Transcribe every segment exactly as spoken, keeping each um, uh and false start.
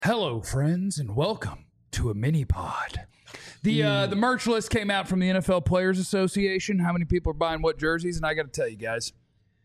Hello, friends, and welcome to a mini pod. The uh, the merch list came out from the N F L Players Association. How many people are buying what jerseys? And I got to tell you guys,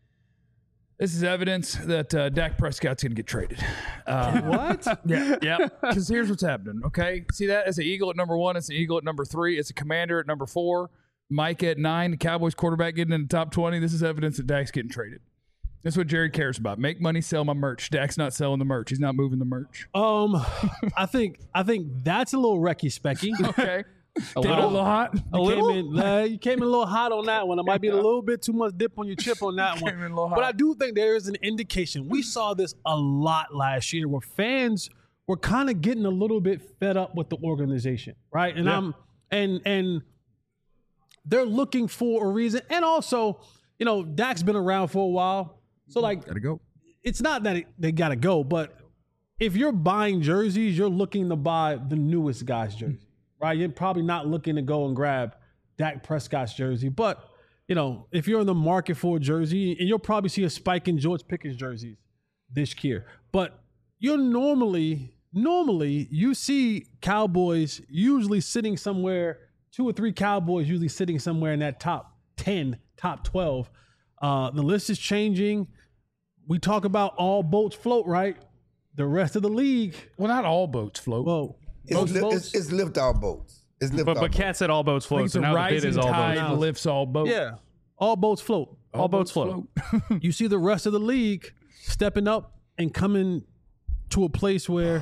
this is evidence that uh, Dak Prescott's going to get traded. Uh, What? yeah, yeah. Because here's what's happening. Okay, see that? It's an Eagle at number one. It's an Eagle at number three. It's a Commander at number four. Mike at nine. The Cowboys quarterback getting in the top twenty. This is evidence that Dak's getting traded. That's what Jerry cares about. Make money, sell my merch. Dak's not selling the merch. He's not moving the merch. Um, I think I think that's a little wrecky specky. Okay. A Came in little? a little hot. A You little? Came in, uh, you came in a little hot on that one. It might be a little bit too much dip on your chip on that one. Came in a little But I hot. do think there is an indication. We saw this a lot last year where fans were kind of getting a little bit fed up with the organization, right? And Yeah. I'm and and they're looking for a reason. And also, you know, Dak's been around for a while. So like Gotta go. it's not that it, they got to go, but if you're buying jerseys, you're looking to buy the newest guy's jersey, right? You're probably not looking to go and grab Dak Prescott's jersey. But, you know, if you're in the market for a jersey, and you'll probably see a spike in George Pickens jerseys this year. But you're normally, normally, you see Cowboys usually sitting somewhere, two or three Cowboys usually sitting somewhere in that top ten, top twelve. Uh, the list is changing. We talk about all boats float, right? The rest of the league, Well, not all boats float. well, It's, most li- boats. it's, it's lift all boats. It's lift But, all but boats. Kat said all boats I think float, it's so a now the bid rising is all tide boats. lifts all boats. yeah, all boats float. All boats float. You see the rest of the league stepping up and coming to a place where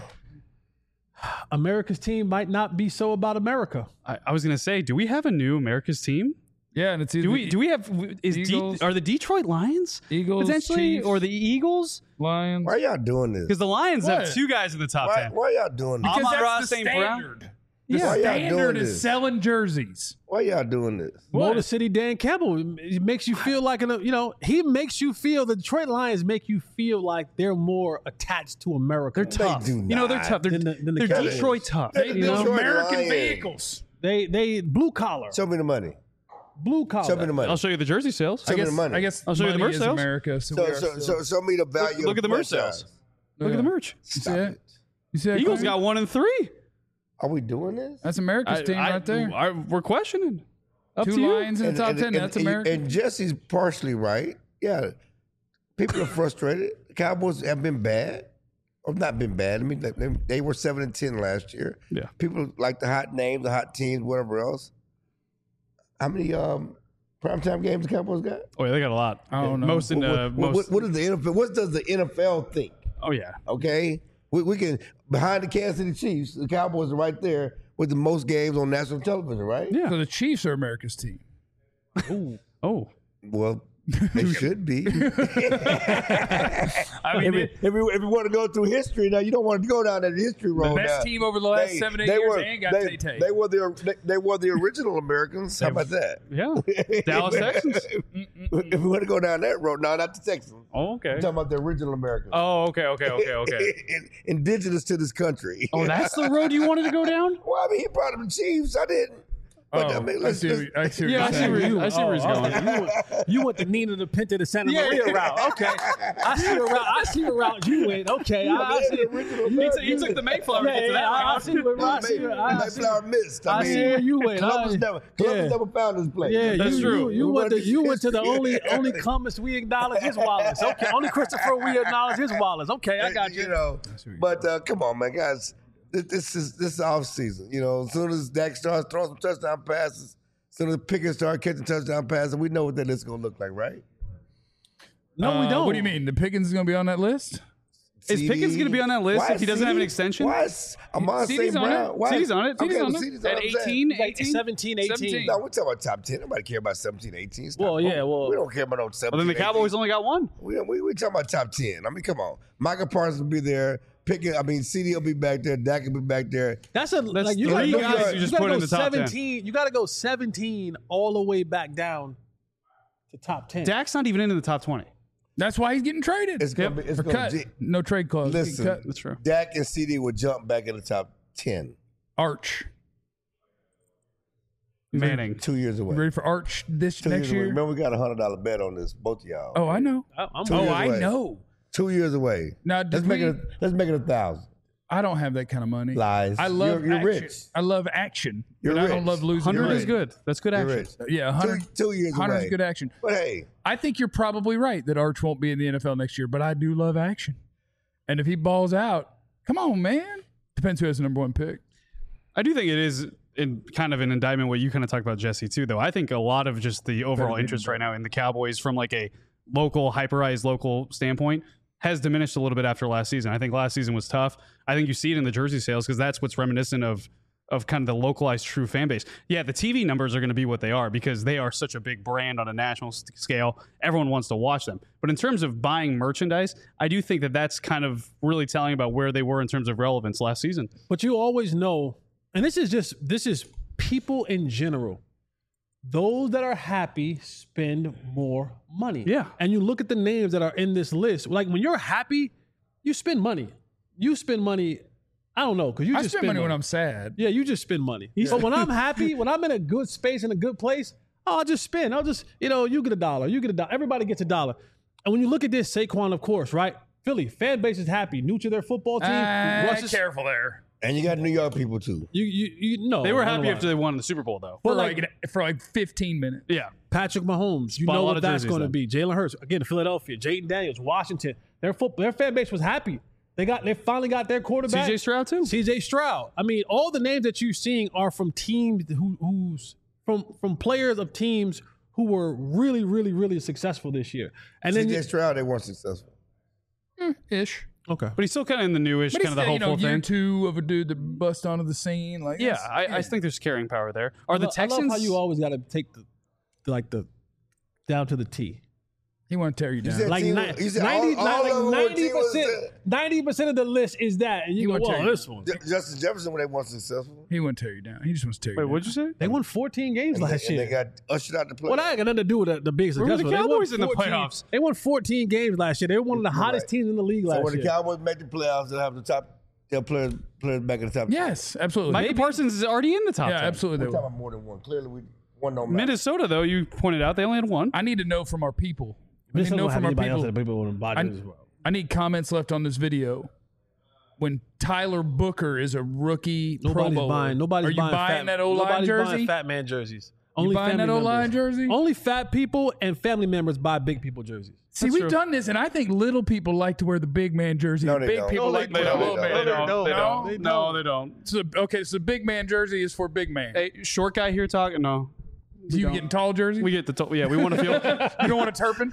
America's team might not be so about America. I, I was going to say, do we have a new America's team? Yeah, and it's either Do we do we have is Eagles- De, are the Detroit Lions Eagles, potentially Chiefs, or the Eagles? Lions. Why y'all doing this? Because the Lions What? have two guys in the top Why, ten. why y'all doing this? I'm Because on that's Ross the Saint Brown. standard. The Yeah. Why y'all standard doing is this? selling jerseys. Why y'all doing this? What? Motor City Dan Campbell, it makes you feel like, an, you know, he makes you feel, the Detroit Lions make you feel like they're more attached to America. They're tough. do You know they're not. tough. They're, Than the- than the they're Cowboys. Detroit tough. They're You the know? Detroit American Lions. vehicles. They, they blue collar, Show me the money. blue collar. Show me the money. I'll show you the jersey sales. Show I me guess, the money. I guess I'll show you the money merch is sales. America. So, So, we are so, still- so, show me the value. Look of at the merch franchise. sales. Look at the merch. You see Stop that? it. You see that? Eagles Cody? got one and three. Are we doing this? That's America's I- team I- right there. I- we're questioning. Up Two to you. Lions in the top ten. That's and, America. And Jesse's partially right. Yeah, people are frustrated. The Cowboys have been bad, or not been bad. I mean, they, they were seven and ten last year. Yeah. People like the hot names, the hot teams, whatever else. How many um, primetime games the Cowboys got? Oh yeah, they got a lot. I don't know. Most in what, uh, what, most. what, what is the N F L? What does the N F L think? Oh yeah. Okay, we, we can behind the Kansas City Chiefs. The Cowboys are right there with the most games on national television, right? Yeah. So the Chiefs are America's team. Oh. Well, they should be. I mean, if, it- if, we, if we want to go through history, now you don't want to go down that history road. The best now. team over the last They- seven, eight they years were, and got they, Tay-Tay. they were the they, they were the original Americans. How about that? yeah. Dallas Texans. If we want to go down that road, no, not the Texans. Oh, okay. I'm talking about the original Americans. Oh, okay, okay, okay, okay. Indigenous to this country. Oh, that's the road you wanted to go down? Well, I mean, he brought them the Chiefs. I didn't. But, Oh, I mean, I let's, see. let's, what- I see. What Yeah, you're I see saying. where you- I see where he's Oh, going. okay. You, went, you went the Nina, the Pinta, the Santa Yeah, Maria yeah. route. Okay, I see a route. I see a route you went. Okay, I, I see. original He, took- he took the Mayflower Yeah, to get to yeah, that I, I route. see where I see. where- I see, Mayflower missed. I, I mean, see where you went. Columbus I- never, Columbus yeah. never found his place. Yeah, That's you, true. You, you We went to went to you went to the history. only only Columbus we acknowledge is Wallace. Okay, only Christopher we acknowledge is Wallace. Okay, I got you. You know, but uh, come on, man, guys. This, this is this is off season. You know, as soon as Dak starts throwing some touchdown passes, as soon as Pickens starts catching touchdown passes, we know what that list is gonna look like, right? No, we Uh, don't. What do you mean? The Pickens is going to be on that list? Is C D? Pickens going to be on that list Why if he is doesn't have an C D? extension? Why is Amon C D's Saint on Brown? it. Why C D's on it. C D's okay, on well, it. C D's At what I'm saying. eighteen, Like eighteen? seventeen, eighteen. seventeen. No, we're talking about top ten. Nobody care about seventeen, eighteen. Stop. Well, yeah, well- we don't care about no seventeen. Well, then the Cowboys eighteen. only got one. We we we talking about top ten. I mean, come on. Michael Parsons will be there. Pickens, I mean, C D will be back there. Dak will be back there. That's a That's like you three gotta, go- guys you just gotta put go in the top ten. seventeen. You got to go seventeen all the way back down to top ten. Dak's not even into the top twenty. That's why he's getting traded. It's gonna be. It's Or gonna cut. j- No trade clause. Getting Listen, cut. That's true. Dak and C D will jump back in the top ten. Arch. Manning. Two years away. You ready for Arch this Two next years away. year? Remember, we got a hundred dollar bet on this, both of y'all. Oh, I know. I- I'm Two Oh, years I away. know. Two years away. Now, let's did make we, it. A, let's make it a thousand. I don't have that kind of money. Lies. I love You're, you're action. rich. I love action. You're but I don't rich. love losing. hundred money. is good. That's good You're action. rich. Yeah, one hundred, Two, two years one hundred away. is good action. But hey, I think you're probably right that Arch won't be in the N F L next year, but I do love action. And if he balls out, come on, man. Depends who has the number one pick. I do think it is in kind of an indictment what you kind of talked about, Jesse, too, though. I think a lot of just the overall interest right now in the Cowboys from like a local, hyperized local standpoint has diminished a little bit after last season. I think last season was tough. I think you see it in the jersey sales because that's what's reminiscent of of kind of the localized true fan base. Yeah, the T V numbers are going to be what they are because they are such a big brand on a national st- scale. Everyone wants to watch them. But in terms of buying merchandise, I do think that that's kind of really telling about where they were in terms of relevance last season. But you always know, and this is just this is people in general. Those that are happy spend more money. Yeah. And you look at the names that are in this list. Like when you're happy, you spend money. You spend money. I don't know because you I just spend money, when I'm sad. Yeah, you just spend money. But when I'm happy, when I'm in a good space in a good place, oh, I'll just spend. I'll just, you know, you get a dollar, you get a dollar. Everybody gets a dollar. And when you look at this, Saquon, of course, right? Philly fan base is happy. New to their football team. Uh, Russ is- careful there. and you got New York people too. you, you, you know, They were I don't happy know after why. they won the Super Bowl, though. For But like, like- for like fifteen minutes. Yeah. Patrick Mahomes, you Bought a know lot what of that's jerseys going to then. be. Jalen Hurts, again, Philadelphia, Jaden Daniels, Washington. Their foot, their fan base was happy. They got, they finally got their quarterback. C J Stroud, too. C J Stroud. I mean, all the names that you're seeing are from teams who, who's from from players of teams who were really, really, really successful this year. And then C J you, Stroud, they weren't successful. Ish. okay, But he's still kind of in the newish, But kind of the he's, you know, hopeful year thing. two of a dude that bust onto the scene. Like, Yeah, that's- I, I think there's carrying power there. Are the I love Texans? how you always got to take the, the like the down to the T. he want to tear you down. said- Like team- ni- he said ninety, all- all like of them were ninety team was percent, there. ninety percent of the list is that, and you He go, won't tell "Whoa, you. this one." J- Justin Jefferson, when they weren't successful, He want to tear you down. He just wants to tear you Wait, down. what'd you say? They won fourteen games and, they, last and year. they got ushered out the playoffs. Well, that ain't got nothing to do with the, the big Where were the successful. They won Cowboys in the fourteen playoffs? They won fourteen games last year. They were one of the You're hottest right. teams in the league So last when the year. Cowboys make the playoffs, they'll have the top. They'll play players back in the top. Yes, absolutely. Michael Parsons is already in the top yeah, ten. absolutely. We're They talking will. about more than one. Clearly, we one don't matter. Minnesota, though, you pointed out, they only had one. I need to know from our people. I need Minnesota to know don't have from our anybody else people. that people wouldn't buy I, jerseys for. I need comments left on this video. When Tyler Booker is a rookie Pro Nobody's Bowler, buying. Nobody's are you buying, buying fat, that O line nobody's jersey? buying fat man jerseys. You Only buying family that O line members. jersey? Only fat people and family members buy big people jerseys. See, we've done this, and I think little people like to wear the big man jersey. No, and they big don't. people No, like they to wear the don't. little They man. don't. No, they No? don't. They No, don't. they don't. So, okay, so big man jersey is for big man. Hey, short guy here talking? No. Do you don't. getting tall jersey? We get the, to- yeah, we want to feel. you don't want a Turpin?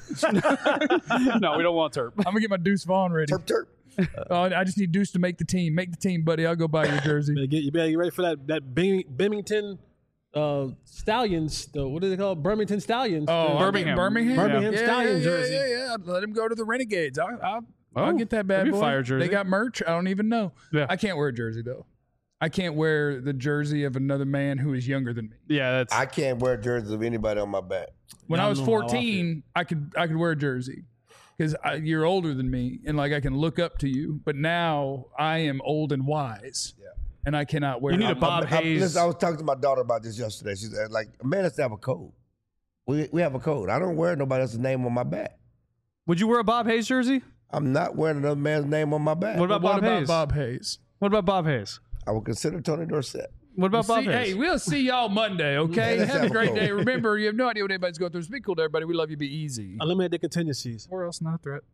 No, we don't want Terp. I'm gonna get my Deuce Vaughn ready. Terp Terp. Oh, I just need Deuce to make the team. Make the team, buddy. I'll go buy your jersey. You better get, you better get ready for that that Bing, Bimington uh, Stallions. The, what do they call it? Birmingham Stallions. Oh, The- I'll Birmingham. get Birmingham, Birmingham yeah, Stallion yeah, jersey. Yeah, yeah, yeah. Let him go to the Renegades. I'll, I'll, I'll Oh, get that bad that'd be a boy. fire jersey. They got merch. I don't even know. Yeah. I can't wear a jersey though. I can't wear the jersey of another man who is younger than me. Yeah, that's. I can't wear jerseys of anybody on my back. When Yeah, I I was know how I fourteen, I could I could wear a jersey because you're older than me and like I can look up to you. But now I am old and wise, Yeah. and I cannot wear. You need a I'm- Bob I, Hayes. listen, I was talking to my daughter about this yesterday. She said, like, a man has to have a code. We we have a code. I don't wear nobody else's name on my back. Would you wear a Bob Hayes jersey? I'm not wearing another man's name on my back. What about What Bob about Hayes? Bob Hayes? What about Bob Hayes? I would consider Tony Dorsett. What about See, Bob Hayes? hey, we'll see y'all Monday, okay? let's Have have a a great call. day. Remember, you have no idea what anybody's going through. So be cool to everybody. We love you. Be easy. Eliminate the contingencies. Or else not a threat.